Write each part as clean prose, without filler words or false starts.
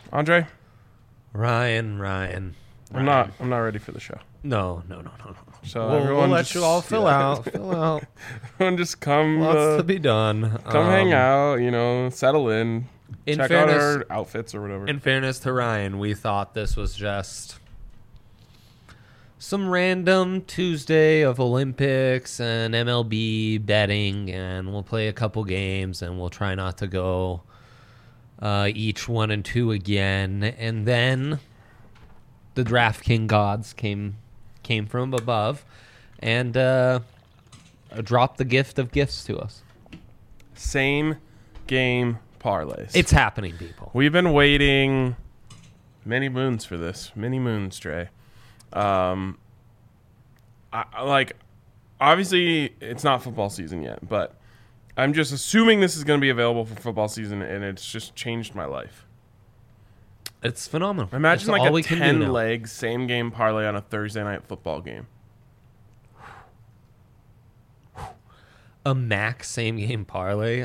Andre, Ryan. I'm not ready for the show. No. So We'll everyone let just, you all fill out. Everyone just come, Lots to be done. come hang out. Settle in. In Check fairness, out our outfits or whatever. In fairness to Ryan, we thought this was just some random Tuesday of Olympics and MLB betting, and we'll play a couple games, and we'll try not to go each 1 and 2 again. And then the DraftKings gods came from above and dropped the gift of gifts to us. Same game parlays. It's happening, people. We've been waiting many moons for this. Many moons, Dre. Obviously, it's not football season yet, but I'm just assuming this is going to be available for football season, and it's just changed my life. It's phenomenal. Imagine it's like all a we can do now. 10-leg same game parlay on a Thursday night football game. A max same game parlay.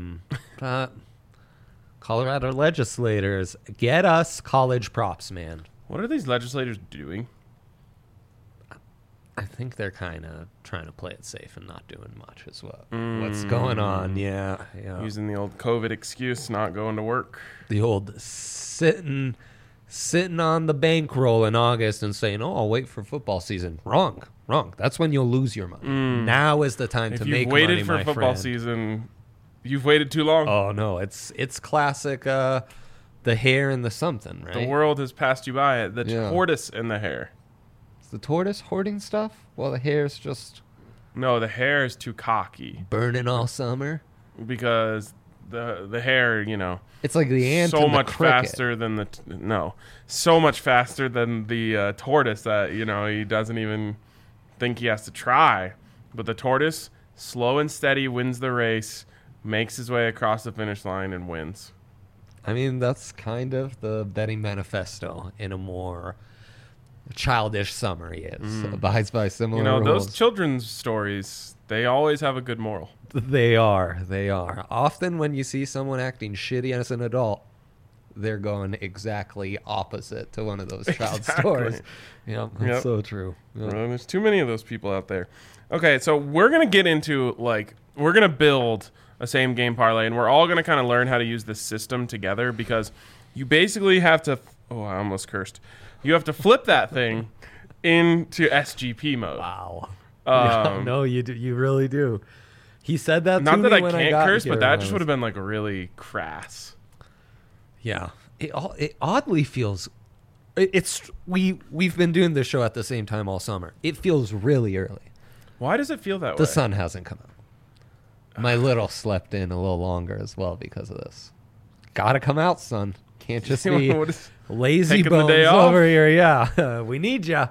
Colorado legislators, get us college props, man. What are these legislators doing? I think they're kind of trying to play it safe and not doing much as well. What's going on? Yeah. Using the old COVID excuse, not going to work. The old sitting on the bankroll in August and saying, "Oh, I'll wait for football season." Wrong. That's when you'll lose your money. Now is the time to make money, If you've waited for football season, you've waited too long. Oh no, it's classic. The hare and the something, right? The world has passed you by. The tortoise and the hare. Is the tortoise hoarding stuff while the hare's just No, the hare is too cocky burning all summer? because the hare, It's like the ant so and the much cricket. faster than so much faster than the tortoise that he doesn't even think he has to try. But the tortoise, slow and steady, wins the race, makes his way across the finish line, and wins. I mean, that's kind of the betting manifesto in a more childish summary. Abides by similar rules. Those children's stories, they always have a good moral. They are. Often when you see someone acting shitty as an adult, they're going exactly opposite to one of those child stories. That's so true. Yep. Well, there's too many of those people out there. Okay, so we're going to get into, we're going to build a same game parlay, and we're all going to kind of learn how to use this system together because you basically have to, I almost cursed. You have to flip that thing into SGP mode. Wow. No, you do. You really do. He said that Not to that me I when can't got curse, here, but that just would have been really crass. Yeah. It oddly feels... We've been doing this show at the same time all summer. It feels really early. Why does it feel that way? The sun hasn't come out. My little slept in a little longer as well because of this. Gotta come out, son. Can't just be lazy taking the bones day off? over here. Yeah, we need ya.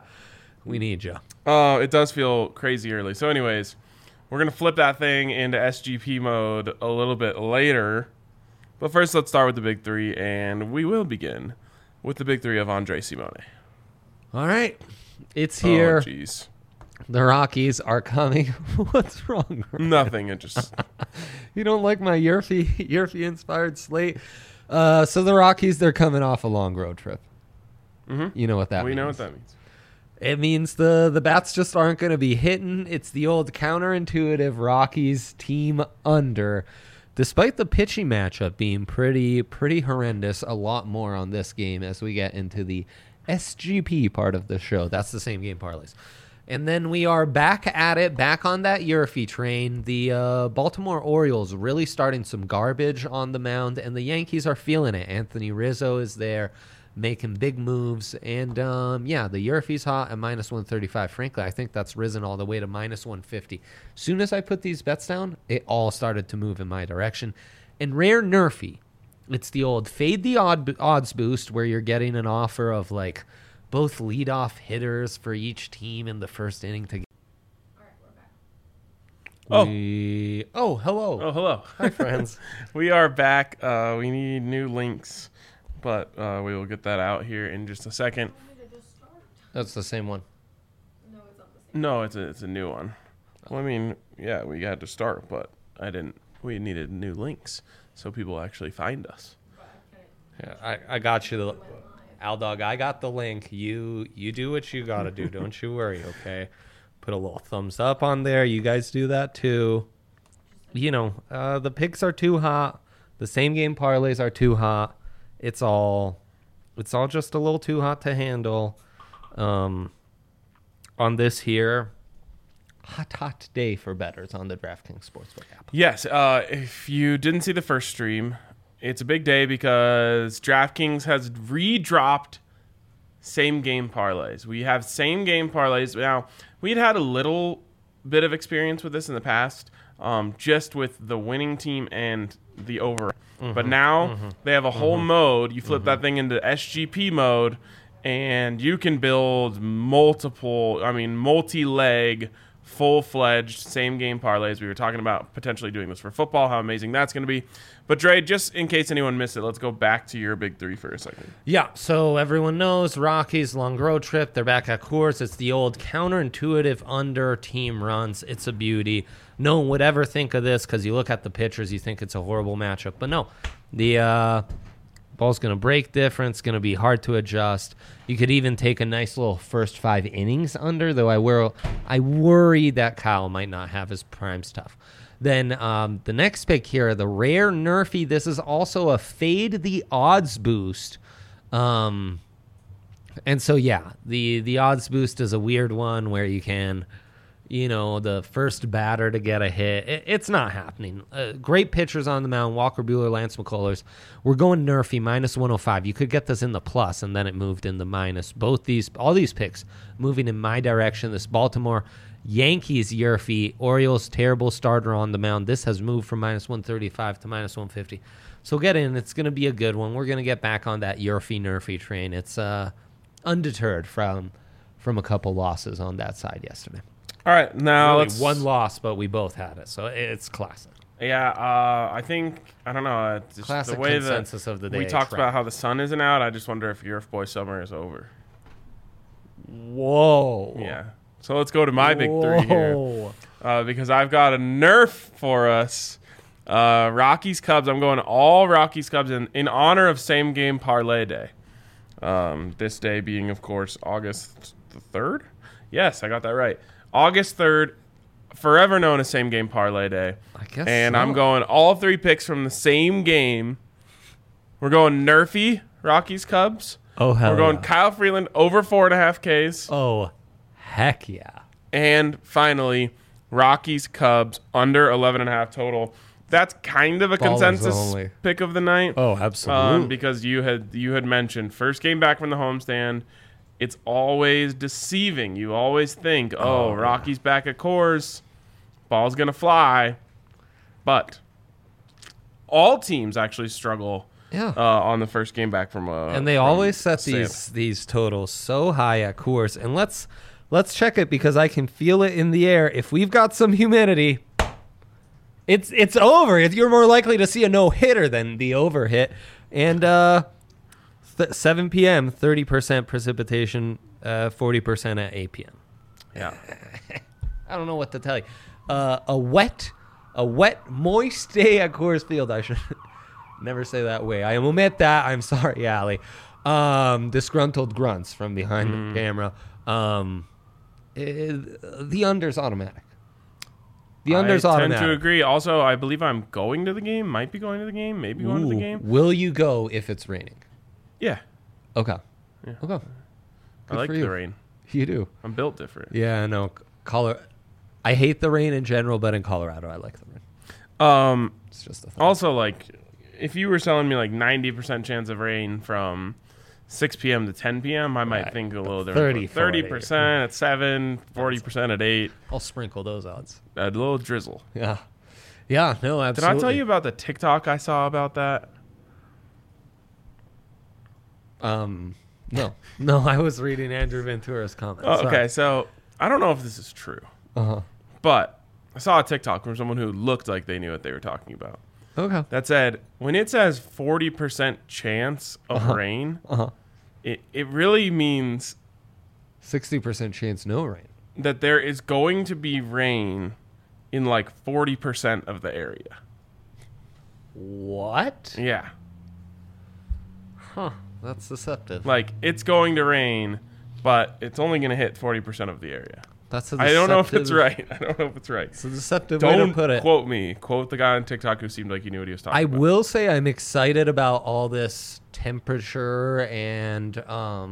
It does feel crazy early. So anyways, we're going to flip that thing into SGP mode a little bit later. But first, let's start with the big three, and we will begin with the big three of Andre Simone. All right. It's here. Oh, jeez. The Rockies are coming. What's wrong? Nothing. It just... You don't like my Yerfie-inspired slate? So the Rockies, they're coming off a long road trip. Mm-hmm. You know what that means. We know what that means. It means the bats just aren't going to be hitting. It's the old counterintuitive Rockies team under. Despite the pitching matchup being pretty horrendous, a lot more on this game as we get into the SGP part of the show. That's the same game parlays. And then we are back at it, back on that Yerfie train. The Baltimore Orioles really starting some garbage on the mound, and the Yankees are feeling it. Anthony Rizzo is there making big moves. And, the Yerfie's hot at minus 135. Frankly, I think that's risen all the way to minus 150. Soon as I put these bets down, it all started to move in my direction. And rare Nerfie, it's the old fade the odds boost where you're getting an offer of, both leadoff hitters for each team in the first inning to. All right, we're back. Hello. Oh, hello. Hi, friends. We are back. We need new links, but we will get that out here in just a second. Want me to just start? That's the same one. No, it's not the same. No, it's a new one. Well, I mean, yeah, we had to start, but we needed new links so people actually find us. But I can't. Yeah, I got you, Al Dog. I got the link. You do what you gotta do. Don't you worry. Okay. Put a little thumbs up on there. You guys do that too. You know, the picks are too hot. The same game parlays are too hot. It's all just a little too hot to handle. On this here, hot day for bettors on the DraftKings Sportsbook app. Yes. If you didn't see the first stream, it's a big day because DraftKings has redropped same game parlays. We have same game parlays. Now, we'd had a little bit of experience with this in the past, just with the winning team and the over. But now they have a whole mode. You flip that thing into SGP mode, and you can build multi-leg, full-fledged same-game parlays. We were talking about potentially doing this for football, how amazing that's going to be. But, Dre, just in case anyone missed it, let's go back to your big three for a second. Yeah, so everyone knows Rockies, long road trip. They're back at course. It's the old counterintuitive under team runs. It's a beauty. No one would ever think of this because you look at the pitchers, you think it's a horrible matchup. But no, the ball's going to break different. It's going to be hard to adjust. You could even take a nice little first 5 innings under, though I worry that Kyle might not have his prime stuff. Then the next pick here, the rare Nerfy. This is also a fade the odds boost. And so, yeah, the odds boost is a weird one where you can, the first batter to get a hit. It's not happening. Great pitchers on the mound, Walker Buehler, Lance McCullers. We're going Nerfy, minus 105. You could get this in the plus, and then it moved in the minus. All these picks moving in my direction. This Baltimore Yankees Yerfy, Orioles terrible starter on the mound. This has moved from minus 135 to minus 150. So get in. It's going to be a good one. We're going to get back on that Nerfy train. It's undeterred from a couple losses on that side yesterday. All right, now Really, let's... one loss, but we both had it, so it's classic. Yeah, I don't know. It's just Classic the way consensus that of the day. we talked about how the sun isn't out. I just wonder if Yerf Boy Summer is over. Whoa. Yeah. So let's go to my big three here. Because I've got a Nerf for us. Rockies Cubs. I'm going all Rockies Cubs in honor of same game parlay day. This day being, of course, August the 3rd. Yes, I got that right. August 3rd, forever known as same game parlay day. I guess And so. I'm going all 3 picks from the same game. We're going Nerfy, Rockies Cubs. Oh, hell We're going yeah. Kyle Freeland over 4.5 Ks. Oh, heck yeah. And finally, Rockies Cubs under 11.5 total. That's kind of a Ballers consensus only. pick of the night. Oh, absolutely. Because you had mentioned first game back from the homestand. It's always deceiving. You always think, Rockies back at Coors, ball's gonna fly. But all teams actually struggle. Yeah. On the first game back from And they from always set Santa. these totals so high at course. And let's check it because I can feel it in the air. If we've got some humidity, it's over. You're more likely to see a no-hitter than the over hit. And 7 p.m., 30% precipitation, 40% at 8 p.m. Yeah. I don't know what to tell you. A wet, moist day at Coors Field. I should never say that way. I omit that. I'm sorry, Allie. Disgruntled grunts from behind the camera. The under's automatic. The under's I automatic. tend to agree. Also, I believe I'm going to the game. Might be going to the game. Maybe going to the game. Will you go if it's raining? Yeah. Okay. Yeah. Okay. I like for you. the rain. You do. I'm built different. Yeah, no. I hate the rain in general, but in Colorado, I like the rain. It's just a thing. Also, like, if you were selling me like 90% chance of rain from 6 p.m. to 10 p.m., I might Right. think a little different. 30% at 7, 40% at 8. I'll sprinkle those odds. A little drizzle. Yeah. Yeah, no, Did absolutely. I tell you about the TikTok I saw about that? No. No, I was reading Andrew Ventura's comments. Oh, okay, so I don't know if this is true, Uh-huh. but I saw a TikTok from someone who looked like they knew what they were talking about. Okay. That said, when it says 40% chance of rain, Uh-huh. it really means 60% chance no rain. that there is going to be rain in like 40% of the area. What? Yeah. Huh. That's deceptive. Like, it's going to rain, but it's only going to hit 40% of the area. That's a I don't know if it's deceptive- right. I don't know if it's right. It's a deceptive way Don't to put it. quote me. Quote the guy on TikTok who seemed like he knew what he was talking I about. will say I'm excited about all this temperature and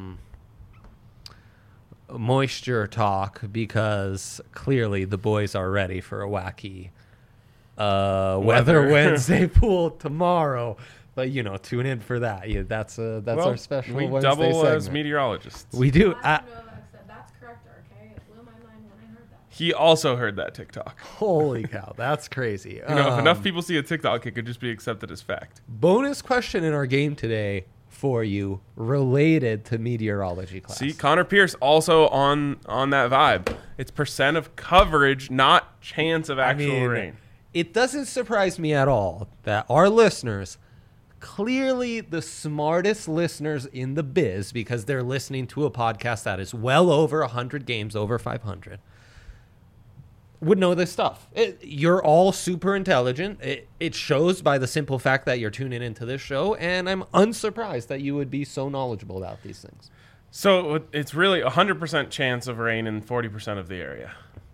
moisture talk because clearly the boys are ready for a wacky Weather Weather. Wednesday pool tomorrow. But tune in for that. Yeah, that's Well, our special we Wednesday double as segment. meteorologists. We do. Novak said that's correct, RK. It blew my mind when I heard that. He also heard that TikTok. Holy cow, that's crazy. If enough people see a TikTok, it could just be accepted as fact. Bonus question in our game today for you related to meteorology class. See, Connor Pierce also on that vibe. It's percent of coverage, not chance of actual rain. It doesn't surprise me at all that our listeners, clearly the smartest listeners in the biz, because they're listening to a podcast that is well over 100 games, over 500, would know this stuff. You're all super intelligent. It shows by the simple fact that you're tuning into this show, and I'm unsurprised that you would be so knowledgeable about these things. So it's really 100% chance of rain in 40% of the area.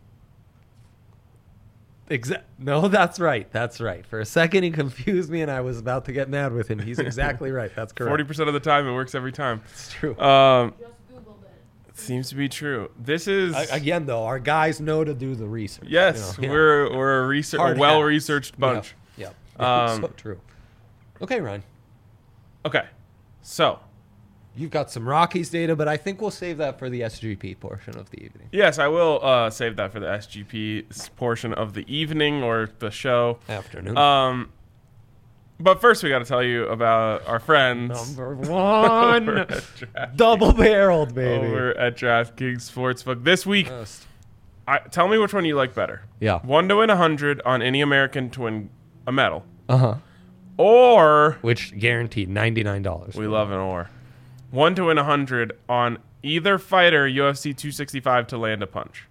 No, that's right. That's right. For a second, he confused me, and I was about to get mad with him. He's exactly right. That's correct. 40% of the time, it works every time. It's true. Just Googled it. It seems to be true. This is Again, though, our guys know to do the research. yes, Yeah. we're a Hard well-researched bunch. Yeah. Um, So true. Okay, Ryan. Okay, so You've got some Rockies data, but I think we'll save that for the SGP portion of the evening. yes, I will save that for the SGP portion of the evening or the show. Afternoon. But first, we got to tell you about our friends Number over one. at Draft- Double-barreled, baby. over at DraftKings Sportsbook this week. First. Tell me which one you like better. Yeah. 1 to win 100 on any American to win a medal, Uh-huh. or Which guaranteed $99. we love an or. 1 to win 100 on either fighter UFC 265 to land a punch.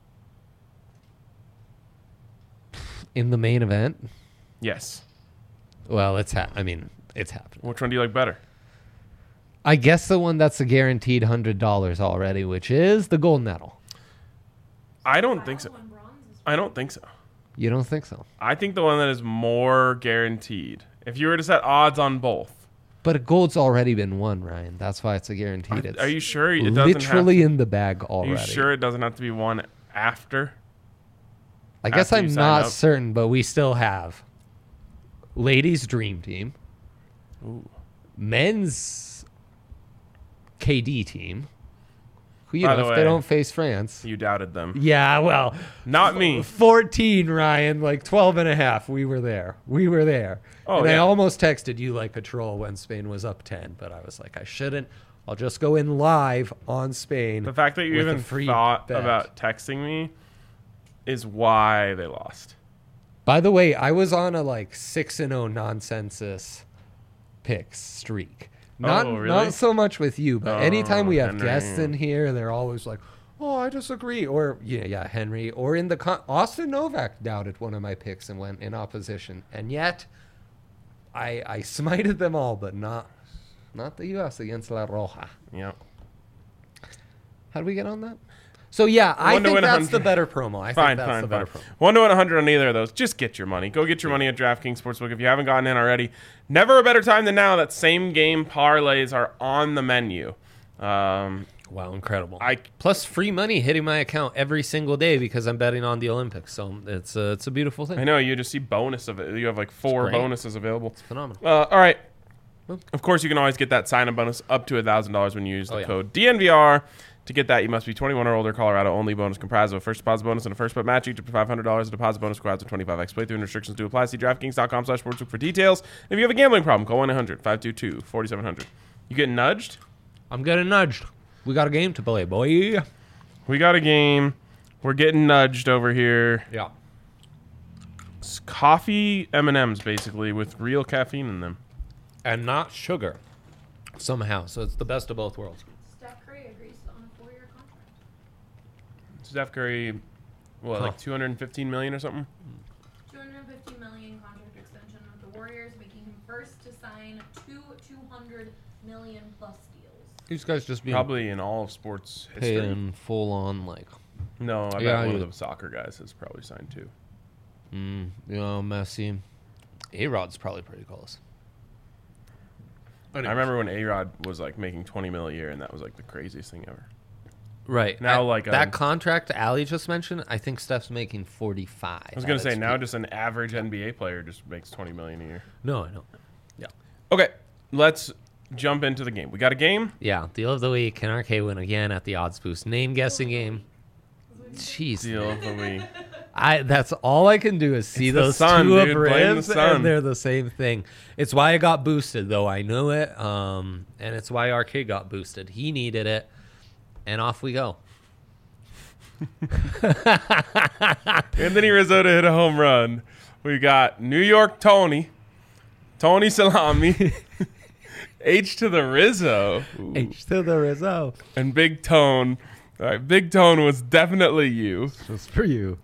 In the main event? Yes. Well, it's happening. Which one do you like better? I guess the one that's a guaranteed $100 already, which is the gold medal. I don't think so. When bronze is I don't think so. You don't think so? I think the one that is more guaranteed. If you were to set odds on both, But a gold's already been won, Ryan. That's why it's a guaranteed. It's are you sure it doesn't literally have in the bag to, already? Are you sure it doesn't have to be one after? I guess after you I'm sign not up? certain, but we still have ladies' dream team, Ooh. men's KD team. Who By the if way- they don't face France? You doubted them. Yeah, well, Not me. 14, Ryan, like 12 and a half. We were there. Oh, and I yeah. almost texted you like patrol when Spain was up 10, but I was like, I shouldn't. I'll just go in live on Spain. The fact that you with a even free thought bet. about texting me is why they lost. By the way, I was on a like 6-0 nonsensus picks streak. Not Oh, really? not so much with you, but anytime we have Henry. guests in here, they're always like, "Oh, I disagree," or yeah, Henry, or in the Austin Novak doubted one of my picks and went in opposition, and yet I smited them all, but not the U.S. against La Roja. Yeah. How do we get on that? So yeah, I 1 to think win that's the 100. better promo. I Fine, think that's the better fine. promo. 1 to 100 on either of those. Just get your money. Go get your money at DraftKings Sportsbook if you haven't gotten in already. Never a better time than now that same game parlays are on the menu. Wow, incredible! I Plus free money hitting my account every single day because I'm betting on the Olympics. So it's a beautiful thing. know you just see bonus of it. You have like 4 great. bonuses available. Phenomenal. All right. Of course, you can always get that sign-up bonus up to $1,000 when you use the yeah. code DNVR. To get that, you must be 21 or older. Colorado only. Bonus comprised of a first deposit bonus and a first bet match. Each up to $500. A deposit bonus requires a 25x playthrough and restrictions do apply. See DraftKings.com/sportsbook for details. If you have a gambling problem, call 1-800-522-4700. You getting nudged? I'm getting nudged. We got a game to play, boy. We got a game. We're getting nudged over here. Yeah. It's coffee M&Ms, basically, with real caffeine in them. And not sugar. Somehow. So it's the best of both worlds. Steph Curry agrees on a 4-year contract. Steph Curry, what, like $215 million or something? 215 $50 million contract extension with the Warriors, making him first to sign two $200 million plus deals. These guys just being Probably in all of sports history. paying full on like. No, I Yeah, bet one you- of the soccer guys has probably signed too. Messi. A-Rod's probably pretty close. I remember when A-Rod was like making 20 mil a year, and that was like the craziest thing ever. Right. Now, That- like, that contract Ali just mentioned, I think Steph's making 45. I was gonna say now just an average NBA player just makes 20 million a year. No, I know. Yeah. Okay, let's jump into the game. We got a game. Yeah, deal of the week. Can RK win again at the odds boost? Name guessing game. Jeez, Deal of the week. that's all I can do is see It's the those sun, two dude. Blame the abreves, sun. and they're the same thing. It's why I got boosted, though I knew it, and it's why RK got boosted. He needed it, and off we go. Anthony Rizzo to hit a home run. We got New York Tony Salami, H to the Rizzo, H to the Rizzo. and Big Tone. All right, Big Tone was definitely you. Just for you.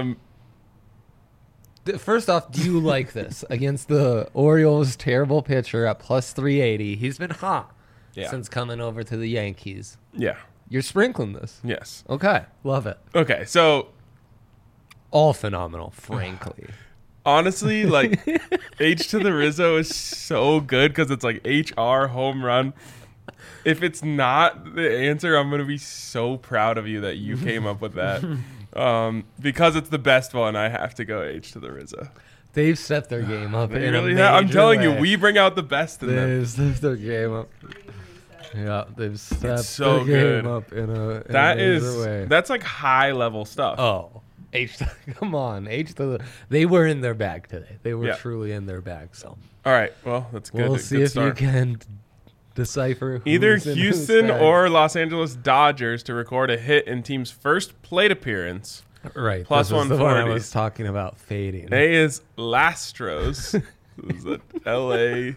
First off, do you like this against the Orioles' terrible pitcher at plus 380? He's been hot Yeah. since coming over to the Yankees. Yeah. You're sprinkling this. Yes. Okay. Love it. Okay, so All phenomenal, frankly. honestly, like H to the Rizzo is so good because it's like HR home run. If it's not the answer, I'm gonna be so proud of you that you came up with that. Because it's the best one, I have to go H to the Rizzo. They've stepped their game up They in really a have. I'm major telling you, way. we bring out the best in them. They've stepped their game up. Yeah, they've stepped so their good. game up in a That major is way. that's like high level stuff. Oh, come on, H to the. They were in their bag today. They were Yeah. truly in their bag. So All right, well that's good. we'll see good if start. you can decipher Either who's in whose Houston bag. or Los Angeles Dodgers to record a hit in team's first plate appearance. right plus this is the one I 140. was talking about fading. A is Lastros. This is a LA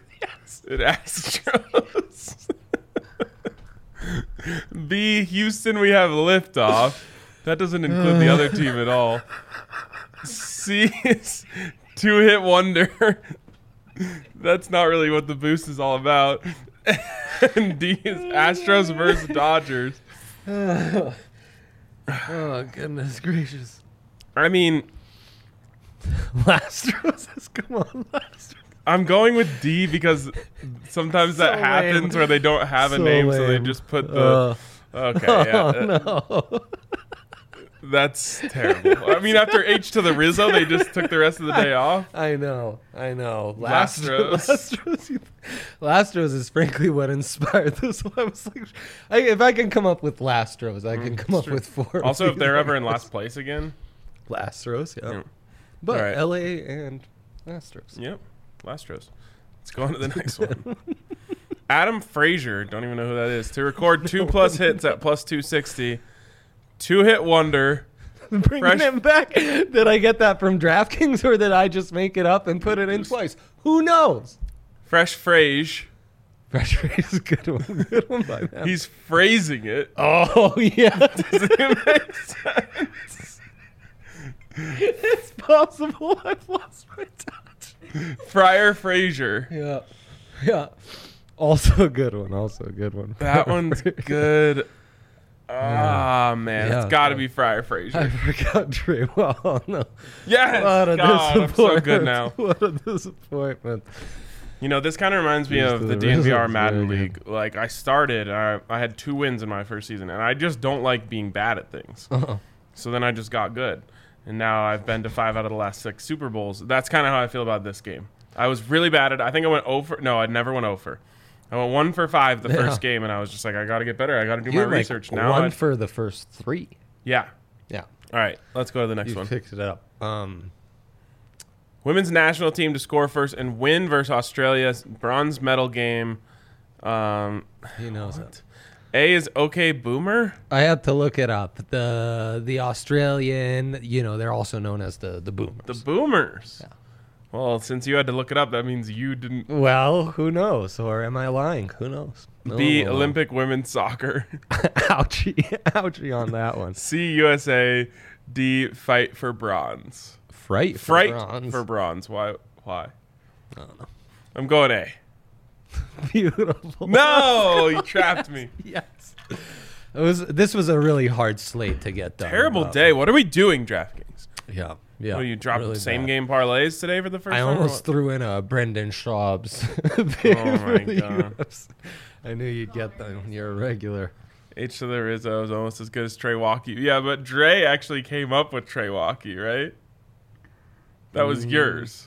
Astros. B, Houston, we have liftoff. That doesn't include the other team at all. C is two-hit wonder. That's not really what the boost is all about. And D is Astros versus Dodgers. Oh goodness gracious! I mean, Lastros, come on, Lastros. I'm going with D because sometimes that So happens lame. where they don't have a So name, so they lame. just put the. Okay, yeah, No. that's terrible. I mean, after H to the Rizzo, they just took the rest of the day off. I know. Lastros. Lastros is frankly what inspired this one. I was like, if I can come up with Lastros, I can come up true. with four. Also, if they're ever in last place again, Lastros, yeah. Yeah. But All right. LA and Lastros. yep, Lastros. Let's go on to the next one. Adam Frazier, don't even know who that is, to record 2+ hits at plus 260. Two-hit wonder. Bringing Fresh- him back. Did I get that from DraftKings or did I just make it up and put it in twice? Who knows? Fresh Frage. Fresh Phrase is a good one. Good one by them. He's phrasing it. Oh, yeah. Does it make sense? It's possible. I've lost my touch. Friar Frazier. Yeah. Yeah. Also a good one. Also a good one. That one's good. Ah, man. Yeah. It's got to be Friar I Frazier. forgot Trey. Well, no. Yes! What a God, I'm so disappointment. good now. What a disappointment. You know, this kind of reminds me Used of to the the DNVR Wizards, Madden very League. Like, I started, I had 2 wins in my first season, and I just don't like being bad at things. Uh-huh. So then I just got good. And now I've been to 5 out of the last 6 Super Bowls. That's kind of how I feel about this game. I was really bad at it. I think I went over. No, I never went over. I went 1 for 5 the first game, and I was just like, I got to get better. I got to do my You're like research. Now, one for the first 3. yeah. Yeah. All right, let's go to the next You one. picked it up. Women's national team to score first and win versus Australia's bronze medal game. He knows it. A is OK Boomer. I had to look it up. The Australian, they're also known as the Boomers. The Boomers. Yeah. Well, since you had to look it up, that means you didn't. Well, who knows? Or am I lying? Who knows? No B, one will know. Olympic women's soccer. Ouchie. Ouchie on that one. C, USA. D, fight for bronze. Fright for Fright bronze. for bronze. Why? I don't know. I'm going A. Beautiful. No, you trapped me. Yes. This was a really hard slate to get done. Terrible day. What are we doing, DraftKings? Yeah. Yeah. What, you dropped really same bad. game parlays today for the first I time? or almost what? threw in a Brendan Schaub's. Oh my God. I knew you'd get that when you're a regular. H to the Rizzo is almost as good as Trey Walkie. Yeah, but Dre actually came up with Trey Walkie, right? That was yours.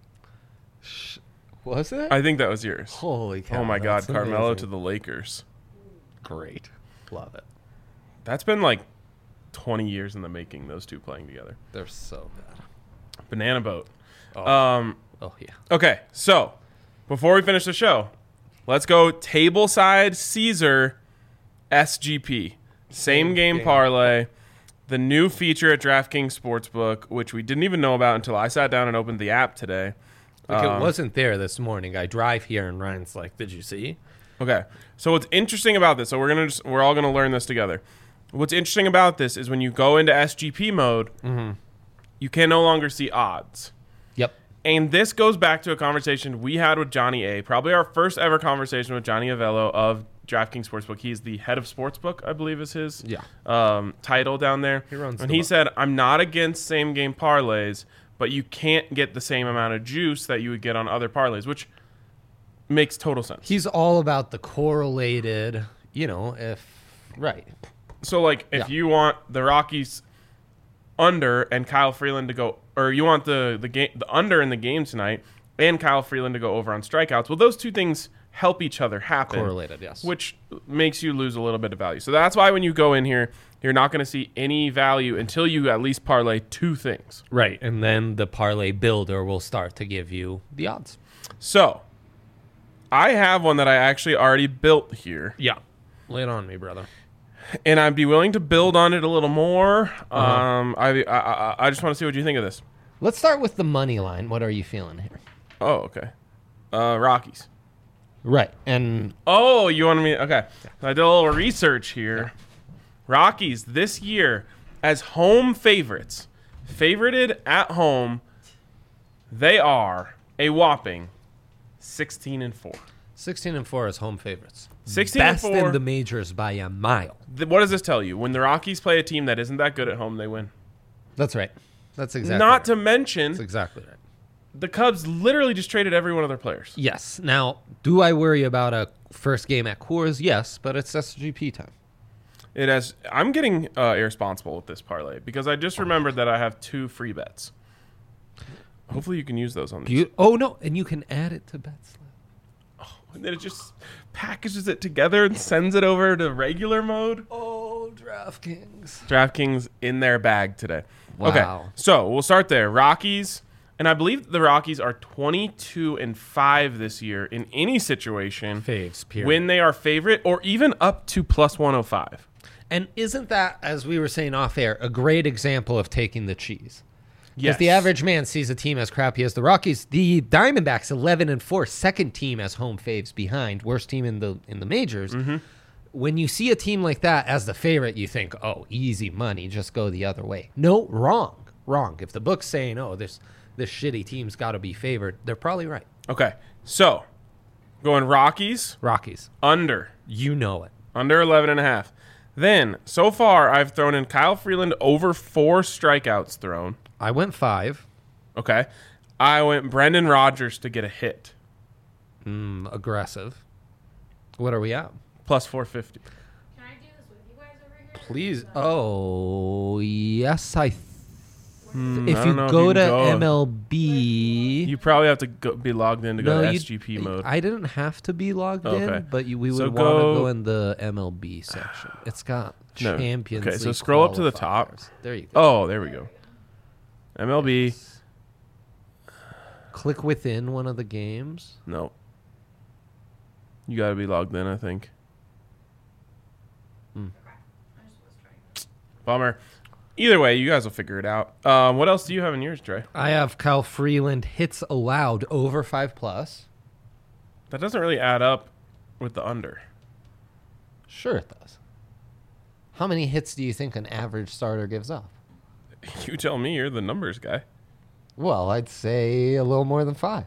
Was it? I think that was yours. Holy cow. Oh my God, that's Carmelo amazing. to the Lakers. Great. Love it. That's been like 20 years in the making, those two playing together. They're so bad. Banana boat. Oh, oh yeah. Okay, so before we finish the show, let's go tableside Caesar SGP. Same game parlay. The new feature at DraftKings Sportsbook, which we didn't even know about until I sat down and opened the app today. Like it wasn't there this morning. I drive here and Ryan's like, "Did you see?" Okay. So what's interesting about this? So we're all gonna learn this together. What's interesting about this is when you go into SGP mode, you can no longer see odds. Yep. And this goes back to a conversation we had with Johnny A. Probably our first ever conversation with Johnny Avello of DraftKings Sportsbook. He's the head of Sportsbook, I believe is his title down there. He runs and the he book. said, I'm not against same game parlays, but you can't get the same amount of juice that you would get on other parlays, which makes total sense. He's all about the correlated, right. So, like, if you want the Rockies under and Kyle Freeland to go, or you want the under in the game tonight and Kyle Freeland to go over on strikeouts, well, those two things help each other happen. Correlated, yes. Which makes you lose a little bit of value. So that's why when you go in here, you're not going to see any value until you at least parlay two things. Right. And then the parlay builder will start to give you the odds. So I have one that I actually already built here. Yeah. Lay it on me, brother. And I'd be willing to build on it a little more. I just want to see what you think of this. Let's start with the money line. What are you feeling here? Oh, okay. Rockies. Right. And Oh, you wanted me? Okay. I did a little research here. Rockies this year as home favorites, favorited at home, they are a whopping 16-4. 16-4 is home favorites. 16-4. Best in the majors by a mile. What does this tell you? When the Rockies play a team that isn't that good at home, they win. That's right. That's exactly Not right. to mention, That's exactly right. the Cubs literally just traded every one of their players. Yes. Now, do I worry about a first game at Coors? Yes, but it's SGP time. It has. I'm getting irresponsible with this parlay because I just remembered that I have 2 free bets. Hopefully, you can use those on this. Oh, no. And you can add it to BetSlip. And then it just packages it together and sends it over to regular mode. Oh, DraftKings. DraftKings in their bag today. Wow. Okay, so we'll start there. Rockies, and I believe the Rockies are 22-5 this year in any situation Faves, period. when they are favorite or even up to plus 105. And isn't that, as we were saying off air, a great example of taking the cheese? Yes. If the average man sees a team as crappy as the Rockies, the Diamondbacks 11-4, second team as home faves behind, worst team in the majors. Mm-hmm. When you see a team like that as the favorite, you think, oh, easy money, just go the other way. No, wrong. If the book's saying, oh, this shitty team's got to be favored, they're probably right. Okay, so going Rockies Rockies, under. you know it. Under 11.5. Then, so far, I've thrown in Kyle Freeland over 4 strikeouts thrown. I went 5. Okay. I went Brendan Rodgers to get a hit. Aggressive. What are we at? Plus 450. Can I do this with you guys over here? Please. Oh, yes, I if I you don't know if go you to can go. MLB, You probably have to be logged in to go to you- SGP mode. I didn't have to be logged Okay. in, but we would So want to go in the MLB section. It's got No. Champions Okay, so League scroll up to the top. qualifiers. There you go. Oh, there we go. MLB. Click within one of the games. No. You got to be logged in, I think. I just was trying. Bummer. Either way, you guys will figure it out. What else do you have in yours, Dre? I have Kyle Freeland hits allowed over 5+. That doesn't really add up with the under. Sure it does. How many hits do you think an average starter gives up? You tell me. You're the numbers guy. Well, I'd say a little more than 5.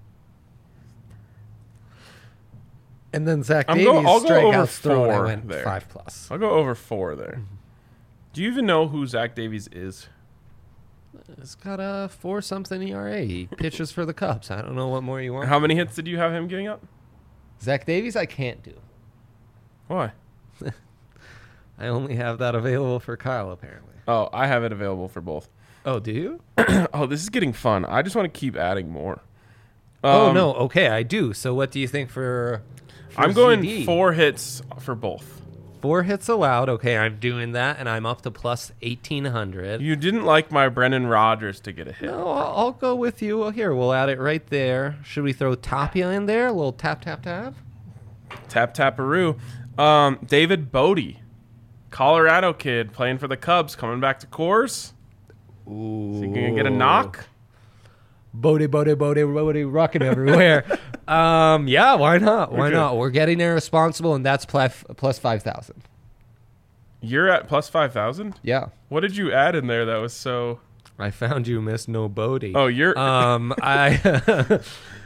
And then Zach Davies I'll go over strikeouts thrown. I 4 went there. 5+. I'll go over 4 there. Do you even know who Zach Davies is? It's got a 4-something ERA. He pitches for the Cubs. I don't know what more you want. How many hits did you have him getting up? Zach Davies, I can't do. Why? I only have that available for Kyle, apparently. Oh, I have it available for both. Oh, do you? Oh, this is getting fun. I just want to keep adding more. Oh, no. Okay, I do. So what do you think for I'm going ZD? 4 hits for both. 4 hits allowed. Okay, I'm doing that, and I'm up to plus 1,800. You didn't like my Brendan Rodgers to get a hit. No, I'll go with you. Well, here, we'll add it right there. Should we throw Tapia in there? A little tap, tap, tap? Tap taparoo. David Bodie, Colorado kid playing for the Cubs, coming back to Coors. Ooh. Is he gonna get a knock? Bodie, rocking everywhere. Yeah, why not? Why Okay. not? We're getting irresponsible, and that's plus 5,000. You're at plus 5,000. Yeah. What did you add in there that was so? I found you, Miss No Bodie. Oh, you're I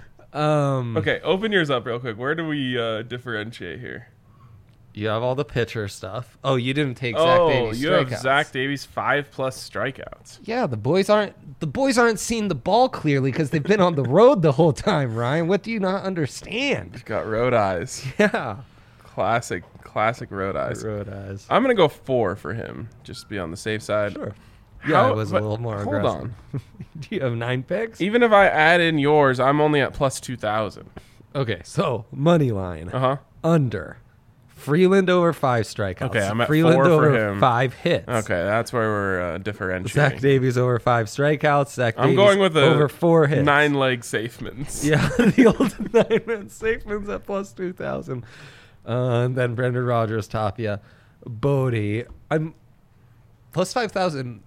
okay. Open yours up real quick. Where do we differentiate here? You have all the pitcher stuff. Oh, you didn't take Zach Oh, Davies. you have strikeouts. Zach Davies 5+ strikeouts. Yeah, the boys aren't seeing the ball clearly because they've been on the road the whole time. Ryan, what do you not understand? He's got road eyes. Yeah, Classic road eyes. road eyes. I'm gonna go 4 for him, just to be on the safe side. Sure. Yeah, How- it was a but little more hold aggressive. on. Do you have 9 picks? Even if I add in yours, I'm only at plus 2,000. Okay, so money line Uh huh. under. Freeland over 5 strikeouts. Okay, I'm at Freeland 4 for over him. 5 hits. Okay, that's where we're differentiating. Zach Davies over 5 strikeouts. Zach I'm Davies going with a over 4 hits. 9-leg Safemans. Yeah, the old 9-man Safeman's at plus 2,000. And then Brendan Rodgers, Tapia, Bodie. I'm plus 5,000.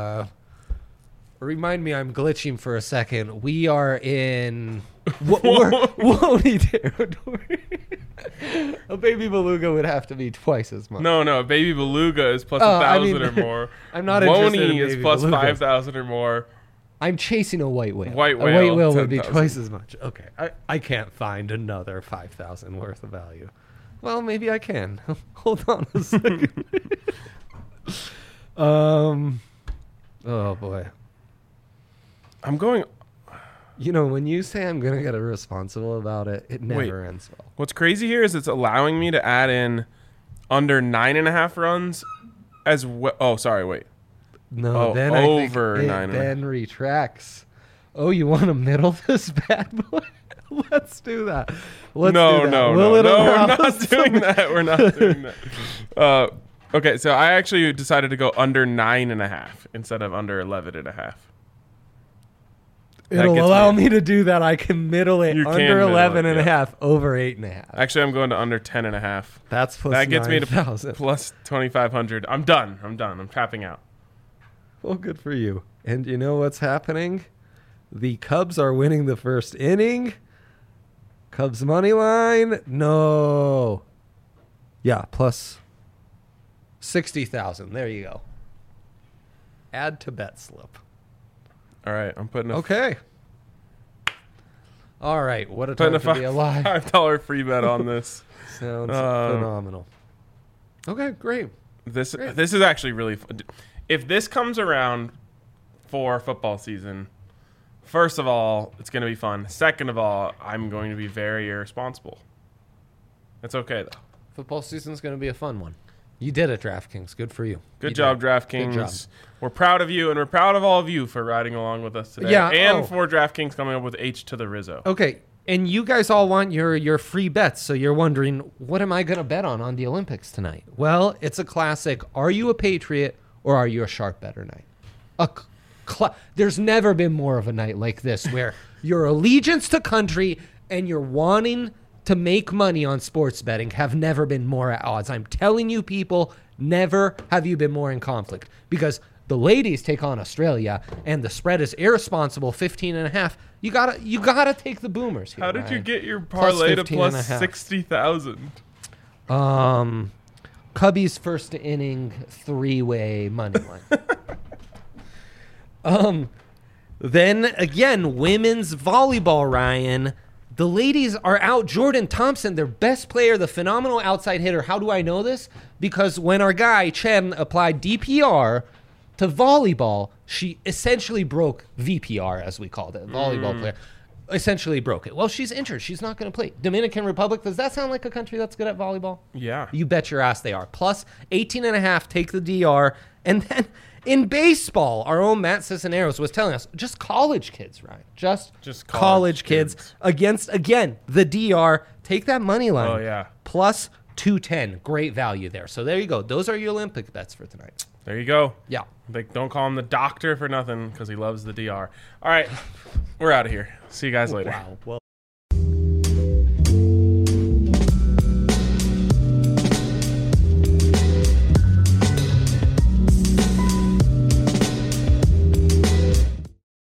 Remind me, I'm glitching for a second. We are in Woney territory. A baby beluga would have to be twice as much. No, Baby Beluga is plus Oh, 1,000 I mean, or more. I'm not interested in Woney is baby plus belugas. 5,000 or more. I'm chasing a white whale. White A white whale, whale would be 10,000. twice as much. Okay, I can't find another 5,000 worth of value. Well, maybe I can. Hold on a second. Oh boy. I'm going. You know, when you say I'm gonna get irresponsible about it, it never ends well. What's crazy here is it's allowing me to add in under 9.5 runs as well. Oh, sorry, wait. No, Oh, then I think over it 9.5. then retracts. Oh, you want to middle this bad boy? Let's do that. Let's do that. No, Will it allow we're not us to doing that. We're not doing that. Okay, so I actually decided to go under 9.5 instead of under 11.5. That It'll gets allow me- me to do that. I can middle it You can under middle it, 11 and a yeah. half, over 8.5. Actually, I'm going to under 10.5. That's plus That gets me to 9,000. plus 2,500. I'm done. I'm tapping out. Well, good for you. And you know what's happening? The Cubs are winning the first inning. Cubs money line? No. Yeah, plus 60,000. There you go. Add to bet slip. All right, I'm putting a Okay. All right. What a putting time a to be alive. $5 free bet on this. Sounds phenomenal. Okay, great. This Great. this is actually really fun. If this comes around for football season, first of all, it's going to be fun. Second of all, I'm going to be very irresponsible. It's okay though. Football season's going to be a fun one. You did it, DraftKings. Good for you. Good You job, did. DraftKings. Good job. We're proud of you, and we're proud of all of you for riding along with us today. Yeah, and oh. for DraftKings coming up with H to the Rizzo. Okay, and you guys all want your free bets, so you're wondering, what am I going to bet on the Olympics tonight? Well, it's a classic. Are you a Patriot or are you a sharp better night? There's never been more of a night like this where your allegiance to country and your wanting to make money on sports betting have never been more at odds. I'm telling you, people, never have you been more in conflict because the ladies take on Australia and the spread is irresponsible 15.5. You gotta take the boomers here. How did you Ryan. get your Plus parlay to 15.5. plus 60,000? Cubbies first inning 3-way money line. Then again, women's volleyball, Ryan. The ladies are out. Jordan Thompson, their best player, the phenomenal outside hitter. How do I know this? Because when our guy, Chen, applied DPR to volleyball, she essentially broke VPR, as we called it, volleyball player. Essentially broke it. Well, she's injured. She's not going to play. Dominican Republic, does that sound like a country that's good at volleyball? Yeah. You bet your ass they are. Plus 18.5, take the DR. And then in baseball, our own Matt Cisneros was telling us, just college kids, right? Just college kids against, again, the DR. Take that money line. Oh, yeah. Plus 210. Great value there. So there you go. Those are your Olympic bets for tonight. There you go. Yeah. They don't call him the doctor for nothing because he loves the DR. All right. We're out of here. See you guys later. Wow. Well.